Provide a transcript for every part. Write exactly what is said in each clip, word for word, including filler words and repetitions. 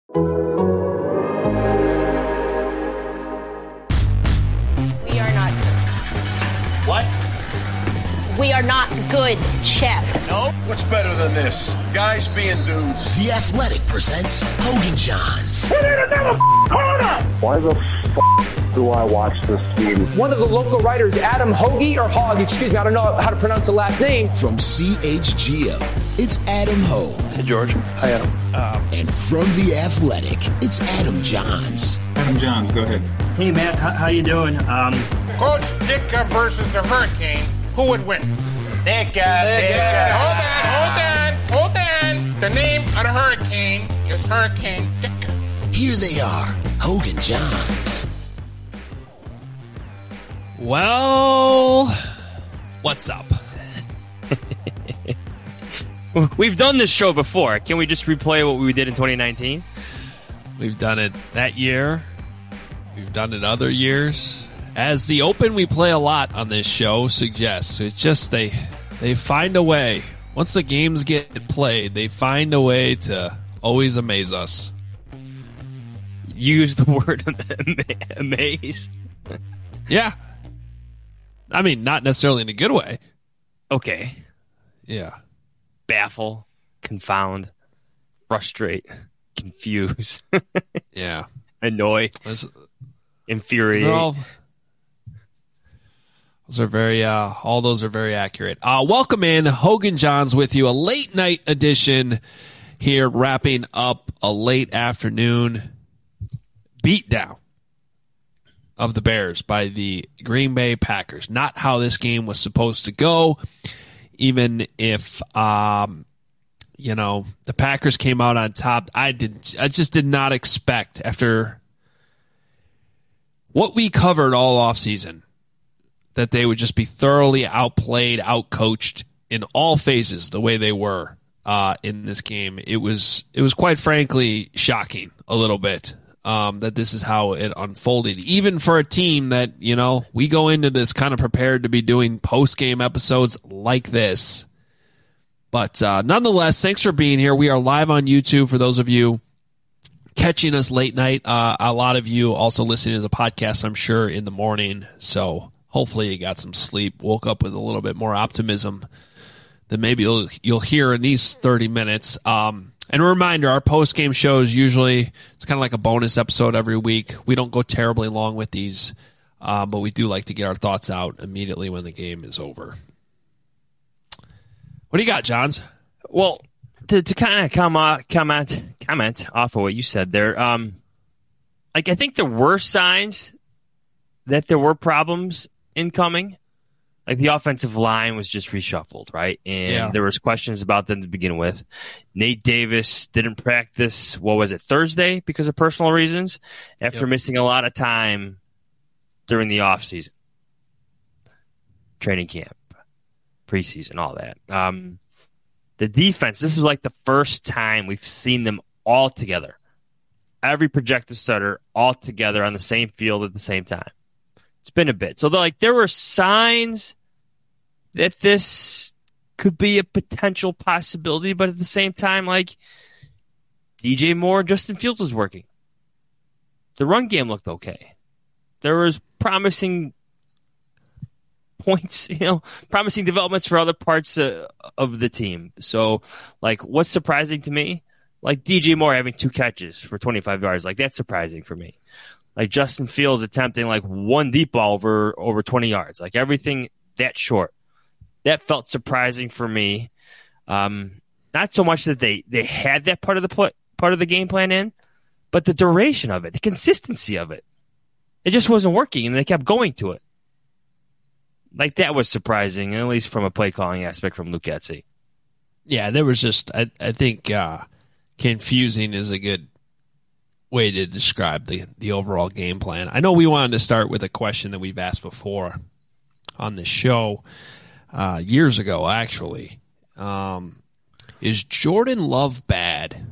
We are not good. What? We are not good, Chef. No? What's better than this? Guys being dudes. The Athletic presents Hogan Johns. We need another corner! Why the f*** do I watch this team? One of the local writers, Adam Hoagie, or Hogg, excuse me, I don't know how to pronounce the last name. From C H G O, it's Adam Hogue. Hey, George. Hi, Adam. Um, and from The Athletic, it's Adam Johns. Adam Johns, go ahead. Hey, Matt, how, how you doing? Um, Coach Ditka versus the Hurricane. Who would win? Ditka, Ditka. Hold on, hold on, hold on. The name of the Hurricane is Hurricane Ditka. Here they are, Hogan Johns. Well, what's up? We've done this show before. Can we just replay what we did in twenty nineteen? We've done it that year. We've done it other years. As the Open we play a lot on this show suggests, it's just they they find a way. Once the games get played, they find a way to always amaze us. Use the word amaze. Yeah. I mean, not necessarily in a good way. Okay. Yeah. Baffle, confound, frustrate, confuse. Yeah. Annoy. Those, infuriate. Those are, all, those are very, uh, all those are very accurate. Uh, welcome in. Hogan Johns with you. A late night edition here, wrapping up a late afternoon beatdown of the Bears by the Green Bay Packers. Not how this game was supposed to go, even if, um, you know, the Packers came out on top. I did. I just did not expect, after what we covered all offseason, that they would just be thoroughly outplayed, outcoached in all phases the way they were uh, in this game. It was, it was quite frankly shocking a little bit. Um, that this is how it unfolded, even for a team that, you know, we go into this kind of prepared to be doing post-game episodes like this. But uh, nonetheless, thanks for being here. We are live on YouTube for those of you catching us late night. Uh, a lot of you also listening to the podcast, I'm sure, in the morning. So hopefully you got some sleep, woke up with a little bit more optimism than maybe you'll, you'll hear in these thirty minutes. Um, And a reminder, our post-game shows usually, it's kind of like a bonus episode every week. We don't go terribly long with these, uh, but we do like to get our thoughts out immediately when the game is over. What do you got, Johns? Well, to, to kind of comment, comment, comment off of what you said there, um, like I think there were signs that there were problems incoming. Like the offensive line was just reshuffled, right? And yeah. There was questions about them to begin with. Nate Davis didn't practice, what was it, Thursday because of personal reasons after yep. missing a lot of time during the offseason. Training camp, preseason, all that. Um, the defense, this is like the first time we've seen them all together. Every projected starter all together on the same field at the same time. It's been a bit. So like there were signs that this could be a potential possibility, but at the same time, like D J Moore, Justin Fields was working. The run game looked okay. There was promising points, you know, promising developments for other parts uh, of the team. So, like, what's surprising to me? Like D J Moore having two catches for twenty-five yards, like that's surprising for me. Like Justin Fields attempting like one deep ball over over twenty yards, like everything that short. That felt surprising for me. Um, not so much that they, they had that part of the pl- part of the game plan in, but the duration of it, the consistency of it. It just wasn't working, and they kept going to it. Like that was surprising, at least from a play calling aspect from Luke Getsy. Yeah, there was just I I think uh, confusing is a good way to describe the the overall game plan. I know we wanted to start with a question that we've asked before on the show. Uh, years ago, actually. Um, is Jordan Love bad?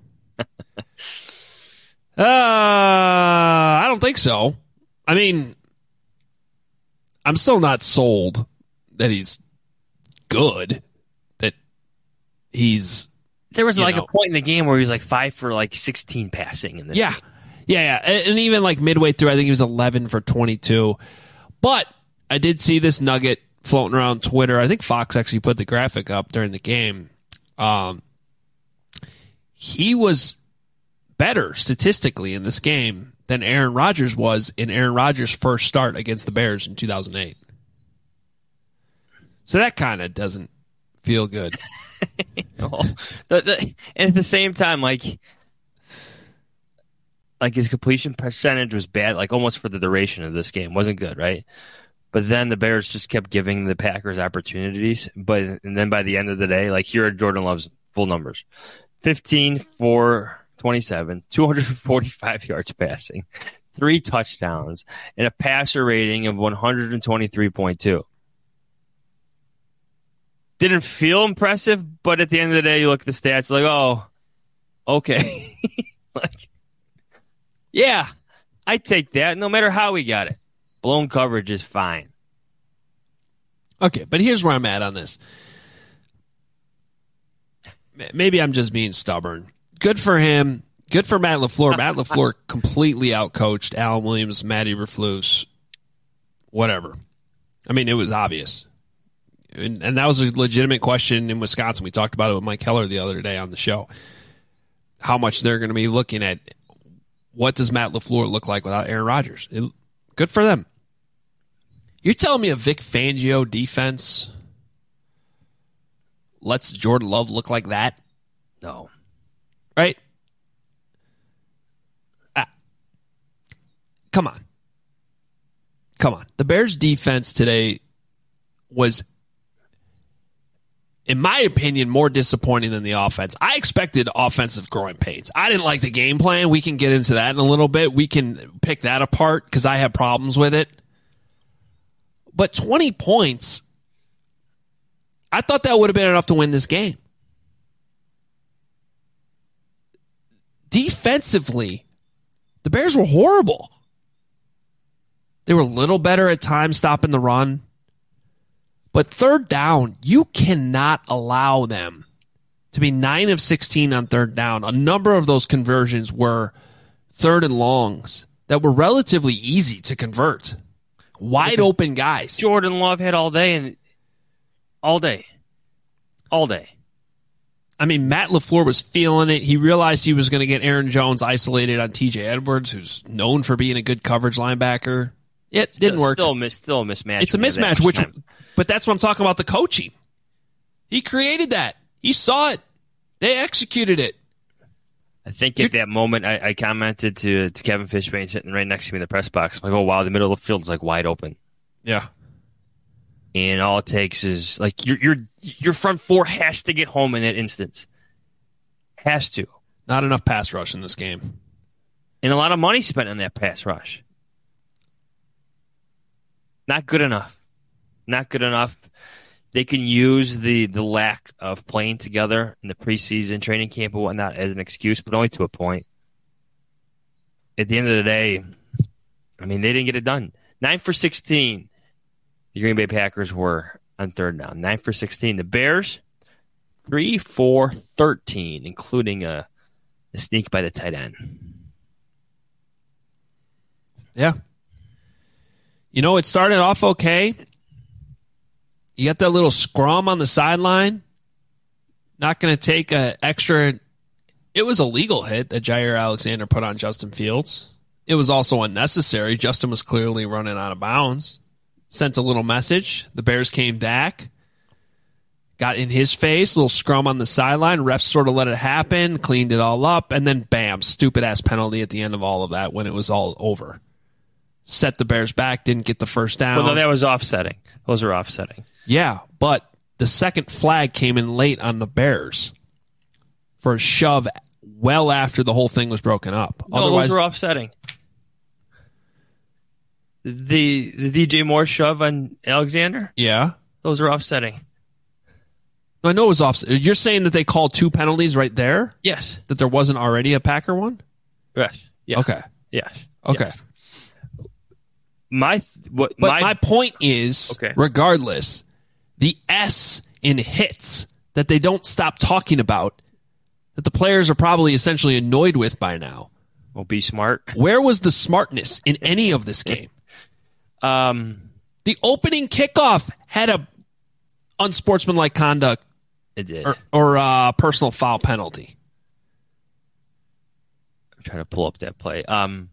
uh, I don't think so. I mean, I'm still not sold that he's good, that he's There was you like know. a point in the game where he was like five for like sixteen passing in this Yeah. game. Yeah, yeah. And, and even like midway through, I think he was eleven for twenty-two. But I did see this nugget floating around Twitter. I think Fox actually put the graphic up during the game. Um, he was better statistically in this game than Aaron Rodgers was in Aaron Rodgers' first start against the Bears in two thousand eight. So that kind of doesn't feel good. no. the, the, and at the same time, like, like his completion percentage was bad, like almost for the duration of this game. Wasn't good, right? But then the Bears just kept giving the Packers opportunities. But and then by the end of the day, like here are Jordan Love's full numbers. fifteen for twenty-seven, two hundred forty-five yards passing, three touchdowns, and a passer rating of one hundred twenty-three point two. Didn't feel impressive, but at the end of the day, you look at the stats like, oh, okay. like, yeah, I take that no matter how we got it. Blown coverage is fine. Okay, but here's where I'm at on this. Maybe I'm just being stubborn. Good for him. Good for Matt LaFleur. Matt LaFleur completely outcoached Alan Williams, Matty Eberflus, whatever. I mean, it was obvious. And, and that was a legitimate question in Wisconsin. We talked about it with Mike Heller the other day on the show. How much they're going to be looking at what does Matt LaFleur look like without Aaron Rodgers. It, good for them. You're telling me a Vic Fangio defense lets Jordan Love look like that? No. Right? Ah. Come on. Come on. The Bears' defense today was, in my opinion, more disappointing than the offense. I expected offensive growing pains. I didn't like the game plan. We can get into that in a little bit. We can pick that apart because I have problems with it. But twenty points, I thought that would have been enough to win this game. Defensively, the Bears were horrible. They were a little better at times stopping the run. But third down, you cannot allow them to be nine of sixteen on third down. A number of those conversions were third and longs that were relatively easy to convert. Wide open guys. Jordan Love had all day and all day. All day. I mean, Matt LaFleur was feeling it. He realized he was going to get Aaron Jones isolated on T J Edwards, who's known for being a good coverage linebacker. It didn't still, work. Still, miss, still a mismatch. It's a mismatch, which, but that's what I'm talking about, the coaching. He created that. He saw it. They executed it. I think at that moment, I, I commented to, to Kevin Fishbane sitting right next to me in the press box. I'm like, oh, wow, the middle of the field is like wide open. Yeah. And all it takes is, like, your your your front four has to get home in that instance. Has to. Not enough pass rush in this game. And a lot of money spent on that pass rush. Not good enough. Not good enough. They can use the, the lack of playing together in the preseason training camp and whatnot as an excuse, but only to a point. At the end of the day, I mean, they didn't get it done. Nine for sixteen, the Green Bay Packers were on third down. Nine for sixteen. The Bears, three for thirteen, including a, a sneak by the tight end. Yeah. You know, it started off okay. You got that little scrum on the sideline. Not going to take an extra. It was a legal hit that Jair Alexander put on Justin Fields. It was also unnecessary. Justin was clearly running out of bounds. Sent a little message. The Bears came back. Got in his face. Little scrum on the sideline. Refs sort of let it happen. Cleaned it all up. And then bam, stupid-ass penalty at the end of all of that when it was all over. Set the Bears back. Didn't get the first down. Well, no, that was offsetting. Those are offsetting. Yeah, but the second flag came in late on the Bears for a shove well after the whole thing was broken up. No, Otherwise, those were offsetting. The the D J Moore shove on Alexander? Yeah. Those are offsetting. I know it was offset. You're saying that they called two penalties right there? Yes. That there wasn't already a Packer one? Yes. Yeah. Okay. Yes. Okay. Yes. My what But my, my point is, okay. regardless, the S in hits that they don't stop talking about that the players are probably essentially annoyed with by now. Well, be smart. Where was the smartness in any of this game? Um, the opening kickoff had a unsportsmanlike conduct it did. or, or uh, personal foul penalty. I'm trying to pull up that play. Um,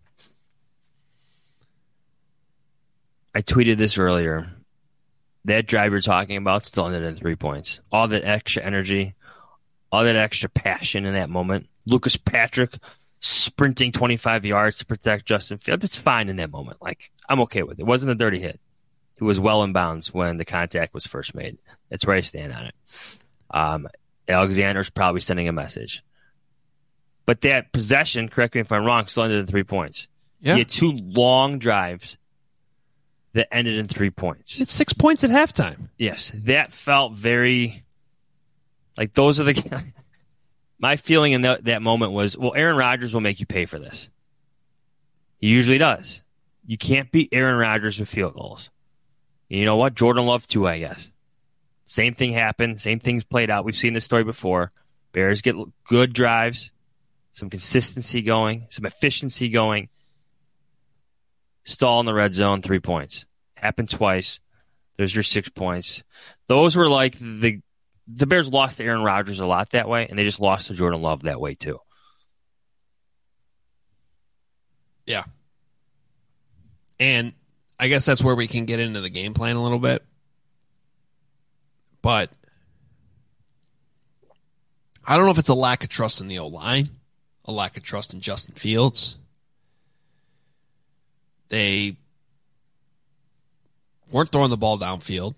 I tweeted this earlier. That drive you're talking about still ended in three points. All that extra energy, all that extra passion in that moment. Lucas Patrick sprinting twenty-five yards to protect Justin Fields. It's fine in that moment. Like, I'm okay with it. It wasn't a dirty hit. He was well in bounds when the contact was first made. That's where I stand on it. Um, Alexander's probably sending a message. But that possession, correct me if I'm wrong, still ended in three points. Yeah. He had two long drives that ended in three points. It's six points at halftime. Yes, that felt very like those are the. My feeling in that, that moment was, well, Aaron Rodgers will make you pay for this. He usually does. You can't beat Aaron Rodgers with field goals. And you know what? Jordan Love too, I guess. Same thing happened. Same things played out. We've seen this story before. Bears get good drives, some consistency going, some efficiency going. Stall in the red zone, three points. Happened twice. There's your six points. Those were like the the Bears lost to Aaron Rodgers a lot that way, and they just lost to Jordan Love that way too. Yeah. And I guess that's where we can get into the game plan a little bit. But I don't know if it's a lack of trust in the O-line, a lack of trust in Justin Fields. They weren't throwing the ball downfield.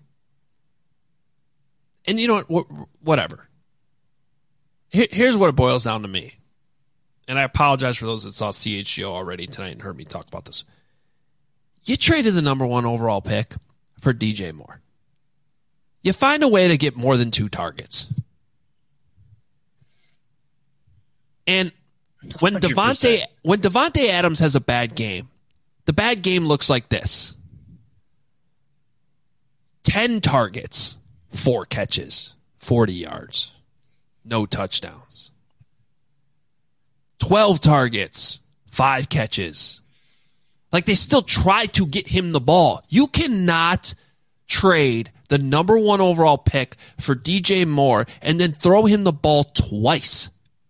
And you know what? Whatever. Here's what it boils down to me. And I apologize for those that saw C H G O already tonight and heard me talk about this. You traded the number one overall pick for D J Moore. You find a way to get more than two targets. And when Devontae, when Devontae Adams has a bad game, the bad game looks like this. Ten targets, four catches, forty yards, no touchdowns. Twelve targets, five catches. Like, they still try to get him the ball. You cannot trade the number one overall pick for D J Moore and then throw him the ball twice.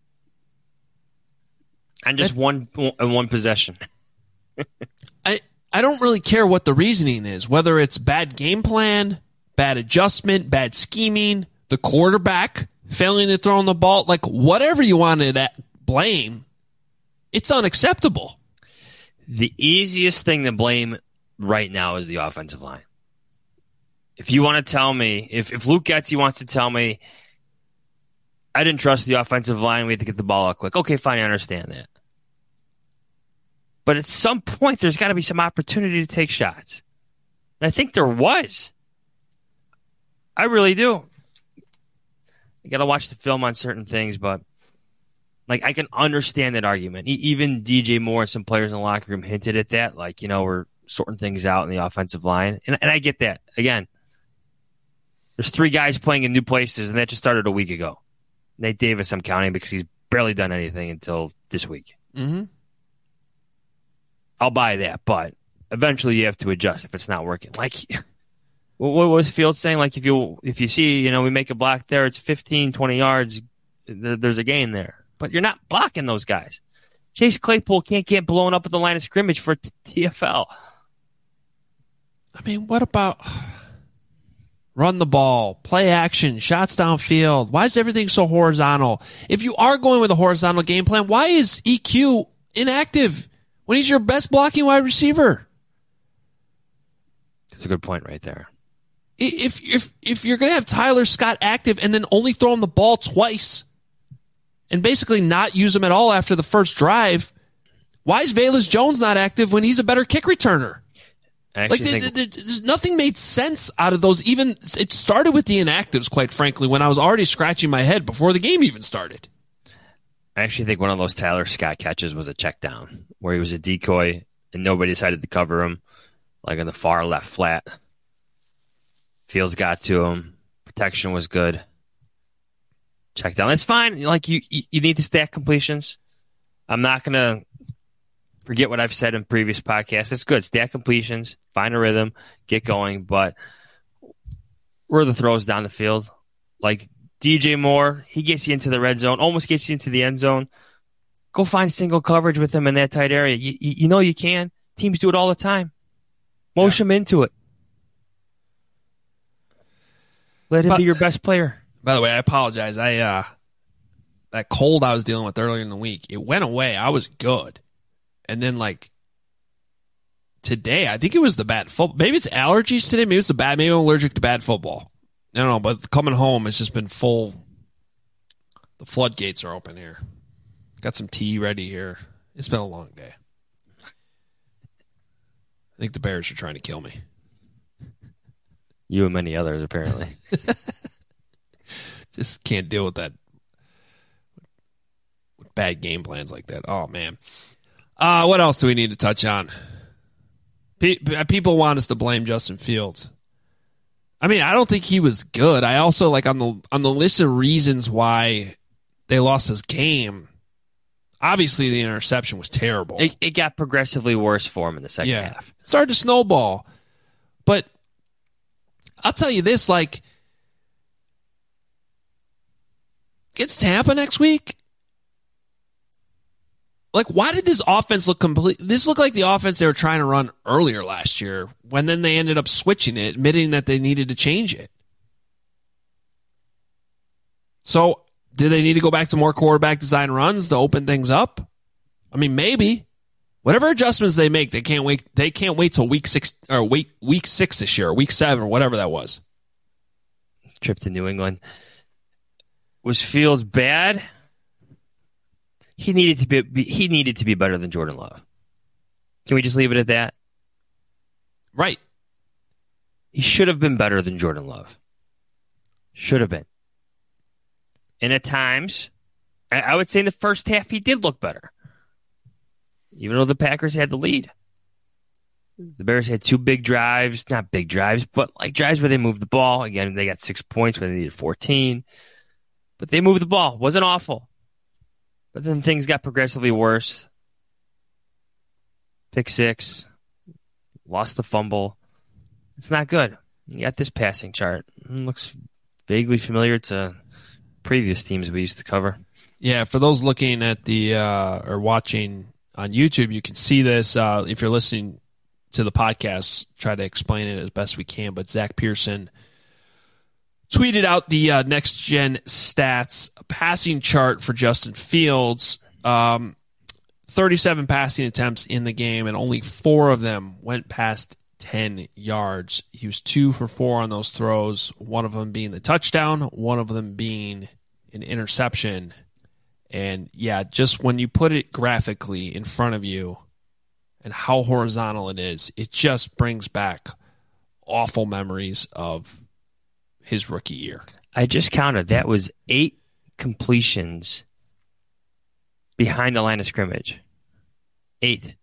And just that, one one possession. I I don't really care what the reasoning is, whether it's bad game plan, bad adjustment, bad scheming, the quarterback failing to throw on the ball, like whatever you wanted to blame, it's unacceptable. The easiest thing to blame right now is the offensive line. If you want to tell me, if, if Luke Getsy wants to tell me, I didn't trust the offensive line, we had to get the ball out quick. Okay, fine, I understand that. But at some point, there's got to be some opportunity to take shots. And I think there was. I really do. You got to watch the film on certain things, but like I can understand that argument. Even D J Moore and some players in the locker room hinted at that. Like, you know, we're sorting things out in the offensive line. And, and I get that. Again, there's three guys playing in new places, and that just started a week ago. Nate Davis, I'm counting because he's barely done anything until this week. Mm-hmm. I'll buy that, but eventually you have to adjust if it's not working. Like, what was Fields saying? Like, if you if you see, you know, we make a block there, it's fifteen, twenty yards, there's a gain there. But you're not blocking those guys. Chase Claypool can't get blown up at the line of scrimmage for T F L. I mean, what about run the ball, play action, shots downfield? Why is everything so horizontal? If you are going with a horizontal game plan, why is E Q inactive when he's your best blocking wide receiver? That's a good point right there. If if if you're going to have Tyler Scott active and then only throw him the ball twice and basically not use him at all after the first drive, why is Velus Jones not active when he's a better kick returner? Like, think... there, there, nothing made sense out of those. Even it started with the inactives, quite frankly, when I was already scratching my head before the game even started. I actually think one of those Tyler Scott catches was a check down where he was a decoy and nobody decided to cover him, like in the far left flat. Fields got to him. Protection was good. check down. That's fine. Like you, you, you need to stack completions. I'm not going to forget what I've said in previous podcasts. That's good. Stack completions, find a rhythm, get going. But where are the throws down the field? Like D J Moore, he gets you into the red zone, almost gets you into the end zone. Go find single coverage with him in that tight area. You, you, you know you can. Teams do it all the time. Motion yeah. him into it. Let him but, be your best player. By the way, I apologize. I uh, that cold I was dealing with earlier in the week, it went away. I was good. And then, like, today, I think it was the bad football. Maybe it's allergies today. Maybe it's the bad. Maybe I'm allergic to bad football. I don't know, but coming home, it's just been full. The floodgates are open here. Got some tea ready here. It's been a long day. I think the Bears are trying to kill me. You and many others, apparently. Just can't deal with that. With bad game plans like that. Oh, man. Uh, what else do we need to touch on? People want us to blame Justin Fields. I mean, I don't think he was good. I also, like, on the on the list of reasons why they lost this game, obviously the interception was terrible. It, it got progressively worse for him in the second yeah. half. It started to snowball. But I'll tell you this, like, against Tampa next week, like, why did this offense look complete? This looked like the offense they were trying to run earlier last year, when then they ended up switching it, admitting that they needed to change it. So, do they need to go back to more quarterback design runs to open things up? I mean, maybe. Whatever adjustments they make, they can't wait. They can't wait till week six or week week six this year, or week seven, or whatever that was. Trip to New England. Was Fields bad? He needed to be, be he needed to be better than Jordan Love. Can we just leave it at that? Right. He should have been better than Jordan Love. Should have been. And at times, I, I would say in the first half he did look better. Even though the Packers had the lead. The Bears had two big drives, not big drives, but like drives where they moved the ball. Again, they got six points when they needed fourteen. But they moved the ball. Wasn't awful. But then things got progressively worse. Pick six. Lost the fumble. It's not good. You got this passing chart. It looks vaguely familiar to previous teams we used to cover. Yeah, for those looking at the uh, or watching on YouTube, you can see this. Uh, if you're listening to the podcast, try to explain it as best we can. But Zach Pearson tweeted out the uh, next gen stats passing chart for Justin Fields. Um, thirty-seven passing attempts in the game, and only four of them went past ten yards. He was two for four on those throws, one of them being the touchdown, one of them being an interception. And yeah, just when you put it graphically in front of you and how horizontal it is, it just brings back awful memories of his rookie year. I just counted. That was eight completions behind the line of scrimmage. Eight.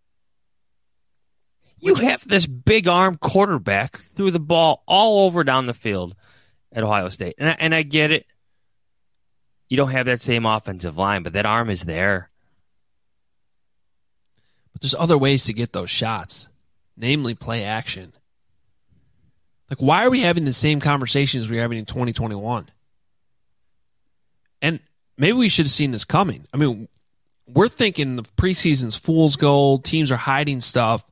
You have this big arm quarterback threw the ball all over down the field at Ohio State. And I, and I get it. You don't have that same offensive line, but that arm is there. But there's other ways to get those shots, namely play action. Like, why are we having the same conversations we were having in twenty twenty-one? And maybe we should have seen this coming. I mean, we're thinking the preseason's fool's gold, teams are hiding stuff.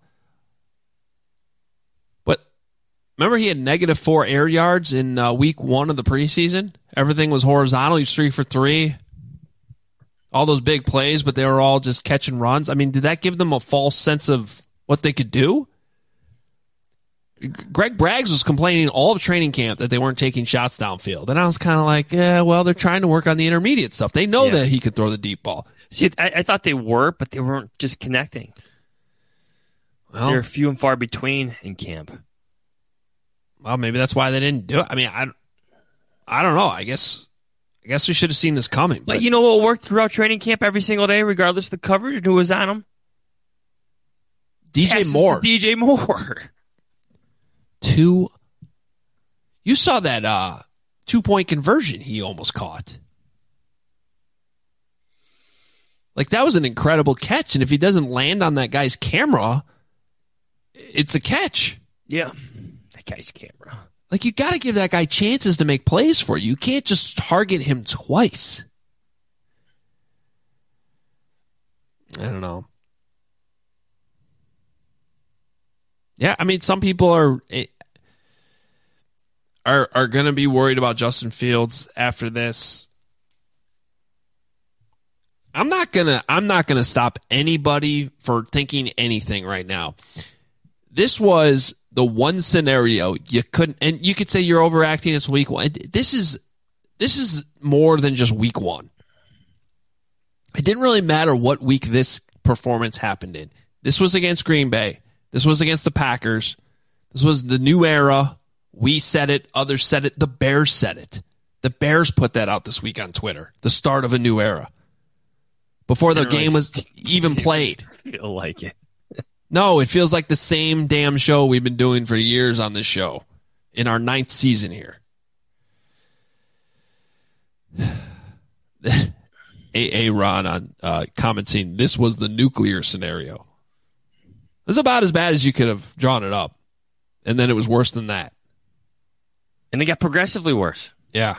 But remember he had negative four air yards in uh, week one of the preseason? Everything was horizontal. He was three for three. All those big plays, but they were all just catching runs. I mean, did that give them a false sense of what they could do? Greg Braggs was complaining all of training camp that they weren't taking shots downfield. And I was kind of like, yeah, well, they're trying to work on the intermediate stuff. They know yeah. that he could throw the deep ball. See, I, I thought they were, but they weren't just connecting. Well, they're few and far between in camp. Well, maybe that's why they didn't do it. I mean, I, I don't know. I guess I guess we should have seen this coming. But, but you know what worked throughout training camp every single day, regardless of the coverage, who was on them? D J Moore. D J Moore. Two. You saw that uh, two-point conversion he almost caught. Like, that was an incredible catch, and if he doesn't land on that guy's camera, it's a catch. Yeah, that guy's camera. Like, you got to give that guy chances to make plays for you. You can't just target him twice. I don't know. Yeah, I mean, some people are are are going to be worried about Justin Fields after this. I'm not gonna. I'm not gonna stop anybody for thinking anything right now. This was the one scenario you couldn't, and you could say you're overacting. It's week one. This is this is more than just week one. It didn't really matter what week this performance happened in. This was against Green Bay. This was against the Packers. This was the new era. We said it. Others said it. The Bears said it. The Bears put that out this week on Twitter. The start of a new era. Before the game was even played. I feel like it. No, it feels like the same damn show we've been doing for years on this show. In our ninth season here. A A. Ron on uh, commenting, this was the nuclear scenario. It was about as bad as you could have drawn it up. And then it was worse than that. And it got progressively worse. Yeah.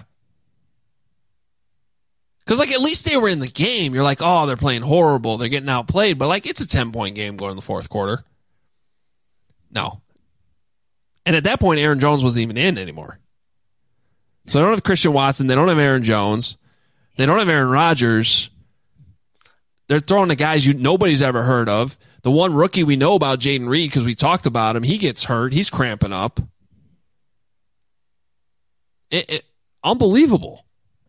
Because, like, at least they were in the game. You're like, oh, they're playing horrible. They're getting outplayed. But, like, it's a ten-point game going in the fourth quarter. No. And at that point, Aaron Jones wasn't even in anymore. So they don't have Christian Watson. They don't have Aaron Jones. They don't have Aaron Rodgers. They're throwing the guys you nobody's ever heard of. The one rookie we know about, Jaden Reed, because we talked about him, he gets hurt. He's cramping up. It, it, unbelievable.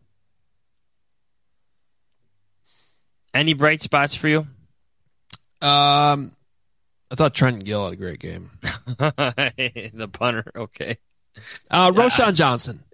Any bright spots for you? Um, I thought Trenton Gill had a great game. The punter, okay. Uh, Roschon Johnson.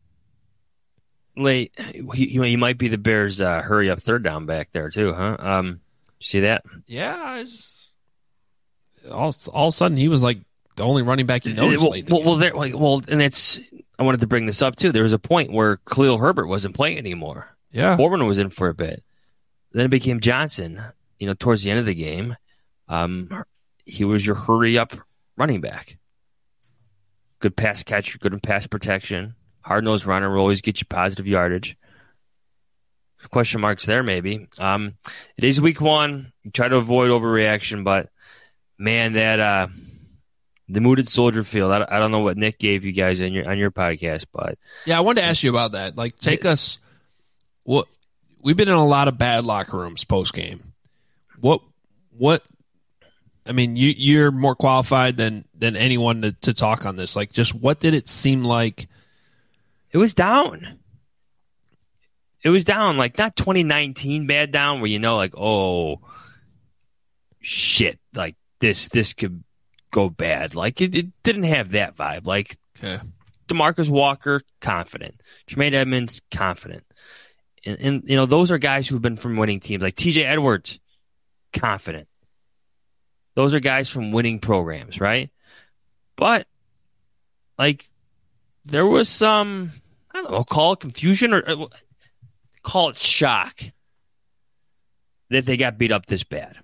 Late, he, he might be the Bears' uh, hurry up third down back there too, huh? Um, see that? Yeah, it's, all all of a sudden he was like the only running back you noticed. Well, late well, well, there, like, well, and that's I wanted to bring this up too. There was a point where Khalil Herbert wasn't playing anymore. Yeah, Foreman was in for a bit. Then it became Johnson. You know, towards the end of the game, um, he was your hurry up running back. Good pass catcher, good in pass protection. Hard-nosed runner will always get you positive yardage. Question marks there, maybe. Um, it is week one. You try to avoid overreaction, but, man, that uh, the mood at Soldier Field, I, I don't know what Nick gave you guys on your on your podcast, but... Yeah, I wanted to ask you about that. Like, take it, us... What we've been in a lot of bad locker rooms post-game. What... what? I mean, you, you're more qualified than, than anyone to, to talk on this. Like, just what did it seem like... It was down. It was down, like not twenty nineteen bad down where you know, like, oh, shit, like this this could go bad. Like it, it didn't have that vibe. Like okay. DeMarcus Walker, confident. Jermaine Edmonds, confident. And, and you know, those are guys who've been from winning teams. Like T J Edwards, confident. Those are guys from winning programs, right? But like there was some. I don't know, call it confusion or uh, call it shock that they got beat up this bad.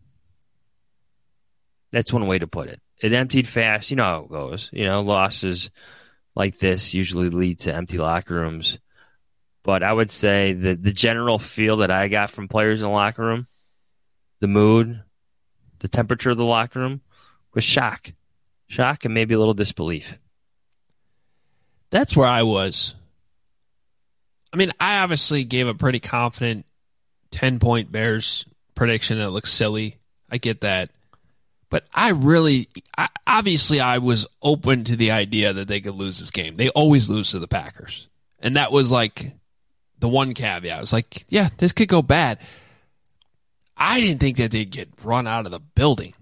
That's one way to put it. It emptied fast. You know how it goes. You know, losses like this usually lead to empty locker rooms. But I would say that the general feel that I got from players in the locker room, the mood, the temperature of the locker room, was shock. Shock and maybe a little disbelief. That's where I was. I mean, I obviously gave a pretty confident ten-point Bears prediction that looks silly. I get that. But I really, I, obviously I was open to the idea that they could lose this game. They always lose to the Packers. And that was like the one caveat. I was like, yeah, this could go bad. I didn't think that they'd get run out of the building.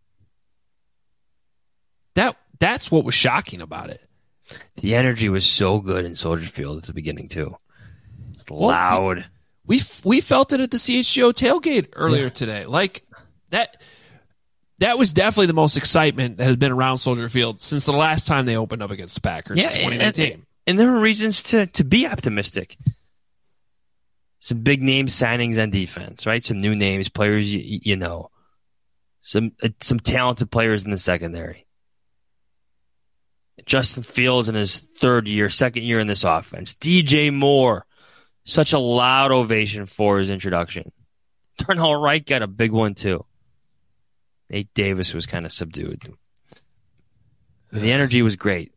That That's what was shocking about it. The energy was so good in Soldier Field at the beginning, too. It's loud. Well, we, we we felt it at the C H G O tailgate earlier yeah. today. Like, that that was definitely the most excitement that has been around Soldier Field since the last time they opened up against the Packers yeah, in twenty nineteen. And, and there were reasons to, to be optimistic. some big name signings on defense, right? Some new names, players you, you know. Some uh, some talented players in the secondary. Justin Fields in his third year, second year in this offense. D J Moore, such a loud ovation for his introduction. Darnell Wright got a big one too. Nate Davis was kind of subdued. The energy was great.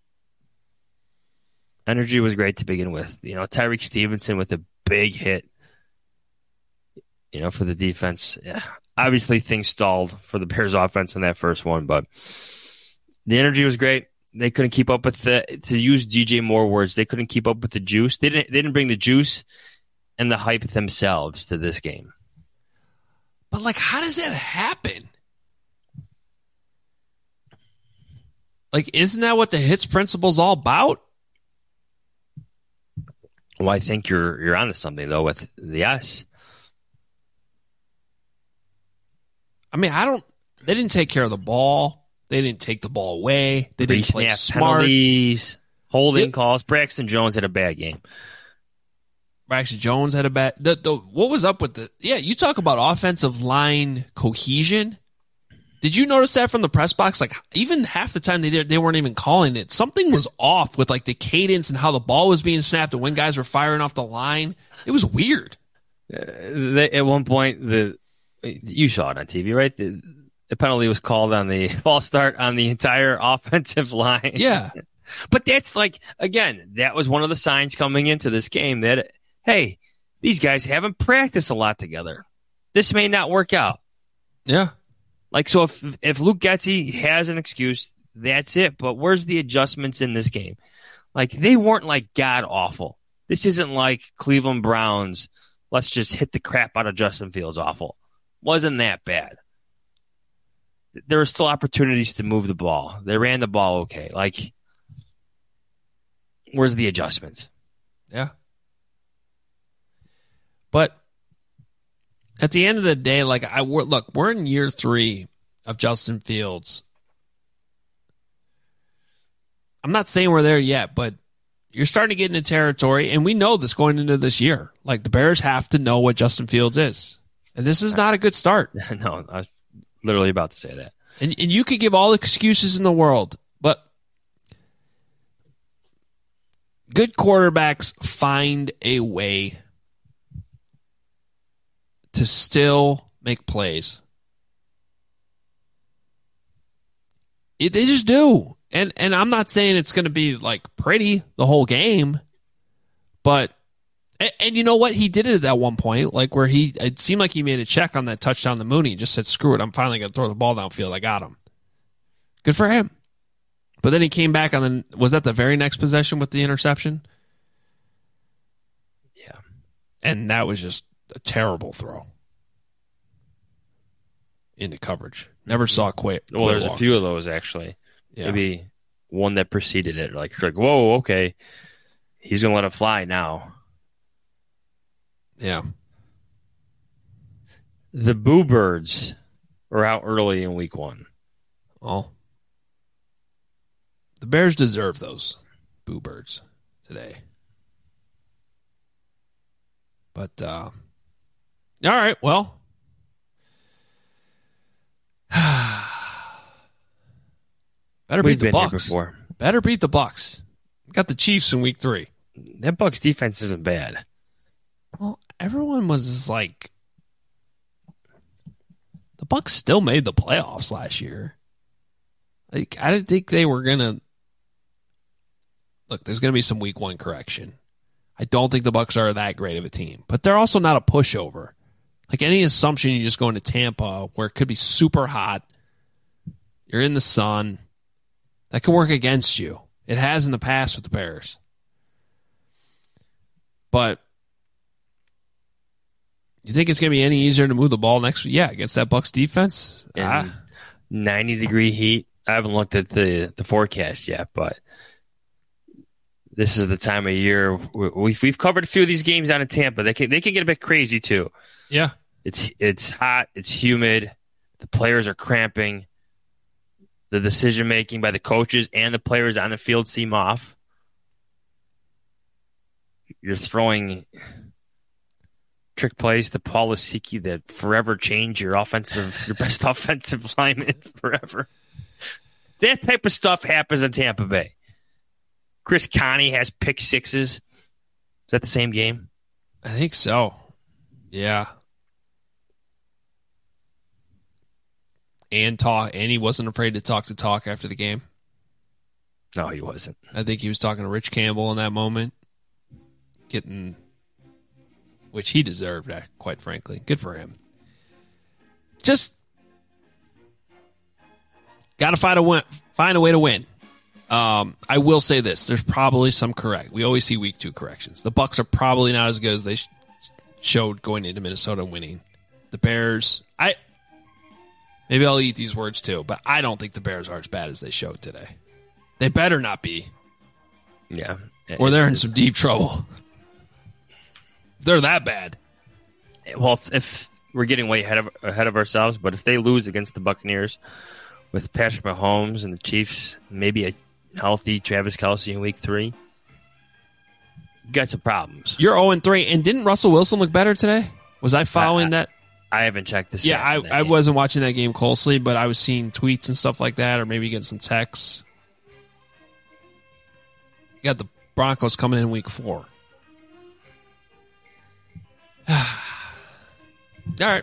Energy was great to begin with. You know, Tyreek Stevenson with a big hit. You know, for the defense. Yeah. Obviously, things stalled for the Bears offense in that first one, but the energy was great. They couldn't keep up with the, to use D J Moore words, they couldn't keep up with the juice. They didn't, they didn't bring the juice and the hype themselves to this game. But, like, how does that happen? Like, isn't that what the hits principle is all about? Well, I think you're you're onto something, though, with the S. I mean, I don't. They didn't take care of the ball. They didn't take the ball away. They didn't play smart. Penalties, holding yep. calls. Braxton Jones had a bad game. Braxton Jones had a bad. The, the, what was up with the? Yeah, you talk about offensive line cohesion. Did you notice that from the press box? Like, even half the time they did, they weren't even calling it. Something was off with like the cadence and how the ball was being snapped and when guys were firing off the line. It was weird. Uh, they, at one point, the you saw it on T V, right? The, the penalty was called on the false start on the entire offensive line. Yeah. But that's like, again, that was one of the signs coming into this game that, hey, these guys haven't practiced a lot together. This may not work out. Yeah. Like, so if if Luke Getsy has an excuse, that's it. But where's the adjustments in this game? Like, they weren't like god awful. This isn't like Cleveland Browns, let's just hit the crap out of Justin Fields awful. Wasn't that bad. There were still opportunities to move the ball. They ran the ball okay. Like, where's the adjustments? Yeah. But at the end of the day, like, I we're, look, we're in year three of Justin Fields. I'm not saying we're there yet, but you're starting to get into territory, and we know this going into this year. Like, the Bears have to know what Justin Fields is. And this is not a good start. No, I was literally about to say that. And, and you could give all the excuses in the world, but good quarterbacks find a way to still make plays. It, they just do. And and I'm not saying it's going to be like pretty the whole game, but and, and you know what? He did it at one point, like where he it seemed like he made a check on that touchdown to Mooney. He just said, "Screw it, I'm finally going to throw the ball downfield. I got him." Good for him. But then he came back on the was that the very next possession with the interception? Yeah, and that was just a terrible throw into coverage. Never saw quite. Well, there's a few of those actually. Yeah. Maybe one that preceded it. Like, like, whoa, okay, he's gonna let it fly now. Yeah. The Boo Birds were out early in week one. Well, the Bears deserve those Boo Birds today. But, uh, all right, well. Better We've beat the been Bucs. Here before. Better beat the Bucs. Got the Chiefs in week three. That Bucs defense isn't bad. Well, everyone was just like, the Bucs still made the playoffs last year. Like, I didn't think they were gonna. Look, there's gonna be some week one correction. I don't think the Bucs are that great of a team, but they're also not a pushover. Like, any assumption you just go into Tampa where it could be super hot, you're in the sun, that could work against you. It has in the past with the Bears. But you think it's going to be any easier to move the ball next week? Yeah, against that Bucs defense? Ah. ninety degree heat. I haven't looked at the, the forecast yet, but this is the time of year. We've, we've covered a few of these games down in Tampa. They can, they can get a bit crazy, too. Yeah. It's it's hot. It's humid. The players are cramping. The decision-making by the coaches and the players on the field seem off. You're throwing trick plays to Paul Lisicky that forever change your offensive, your best offensive lineman forever. That type of stuff happens in Tampa Bay. Chris Connie has pick sixes. Is that the same game? I think so. Yeah. And talk, and he wasn't afraid to talk to talk after the game. No, he wasn't. I think he was talking to Rich Campbell in that moment, getting, which he deserved, quite frankly. Good for him. Just got to find a win, find a way to win. Um, I will say this: there's probably some correct. We always see week two corrections. The Bucs are probably not as good as they sh- showed going into Minnesota and winning. The Bears, I maybe I'll eat these words too, but I don't think the Bears are as bad as they showed today. They better not be. Yeah, or they're in some deep trouble. They're that bad. Well, if, if we're getting way ahead of ahead of ourselves, but if they lose against the Buccaneers with Patrick Mahomes and the Chiefs, maybe a healthy Travis Kelce in week three, you got some problems. You're oh and three, and didn't Russell Wilson look better today? Was I following I, I, that? I haven't checked this. Yeah, I, I wasn't watching that game closely, but I was seeing tweets and stuff like that, or maybe getting some texts. You got the Broncos coming in week four. All right.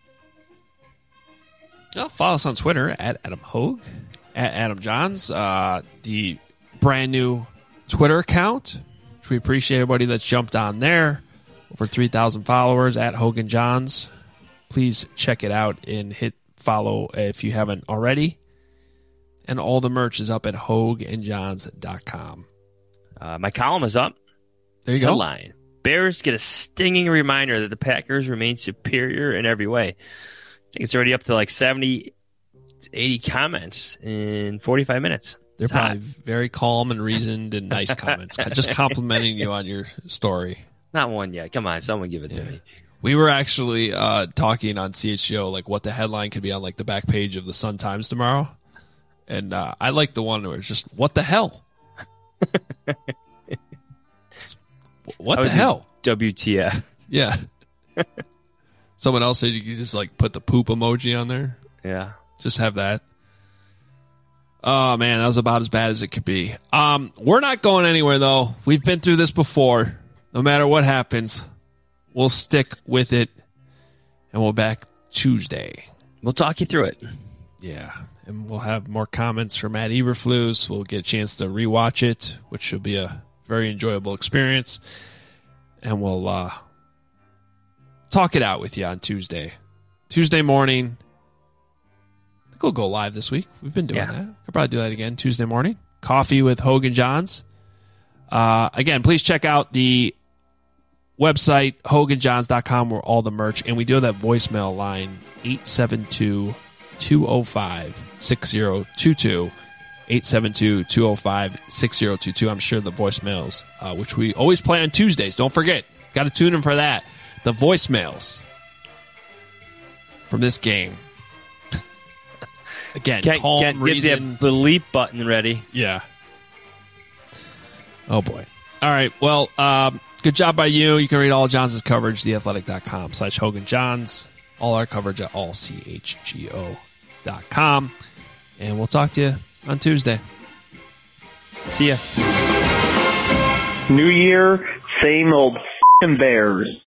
Well, follow us on Twitter at Adam Hogue, at Adam Johns, uh, the brand new Twitter account, which we appreciate everybody that's jumped on there. Over three thousand followers at Hogan Johns. Please check it out and hit follow if you haven't already. And all the merch is up at hogue and johns dot com. Uh, my column is up. There you Headline. Go. Bears get a stinging reminder that the Packers remain superior in every way. I think it's already up to like seventy, eighty comments in forty-five minutes. They're it's probably hot. very calm and reasoned and nice comments. Just complimenting you on your story. Not one yet. Come on, someone give it yeah. to me. We were actually uh, talking on C H G O like what the headline could be on like the back page of the Sun Times tomorrow. And uh, I like the one where it's just, what the hell? What the hell? W T F. Yeah. Someone else said you could just like put the poop emoji on there. Yeah. Just have that. Oh, man, that was about as bad as it could be. Um, we're not going anywhere, though. We've been through this before. No matter what happens, we'll stick with it, and we'll back Tuesday. We'll talk you through it. Yeah, and we'll have more comments from Matt Eberflus. We'll get a chance to rewatch it, which should be a very enjoyable experience. And we'll uh, talk it out with you on Tuesday. Tuesday morning. I think we'll go live this week. We've been doing yeah. that. We'll probably do that again Tuesday morning. Coffee with Hogan Johns. Uh, again, please check out the website, hogan johns dot com, where all the merch. And we do have that voicemail line, eight seven two, two oh five, six oh two two. eight seven two, two oh five, six oh two two. I'm sure the voicemails, uh, which we always play on Tuesdays. Don't forget. Got to tune in for that. The voicemails from this game. Again, can't, calm, can't reason. Get the bleep button ready. Yeah. Oh, boy. All right. Well, um, good job by you. You can read all Johns' coverage, theathletic.com slash Hogan Johns. All our coverage at all c h g o dot com. And we'll talk to you on Tuesday. See ya. New year, same old f***ing Bears.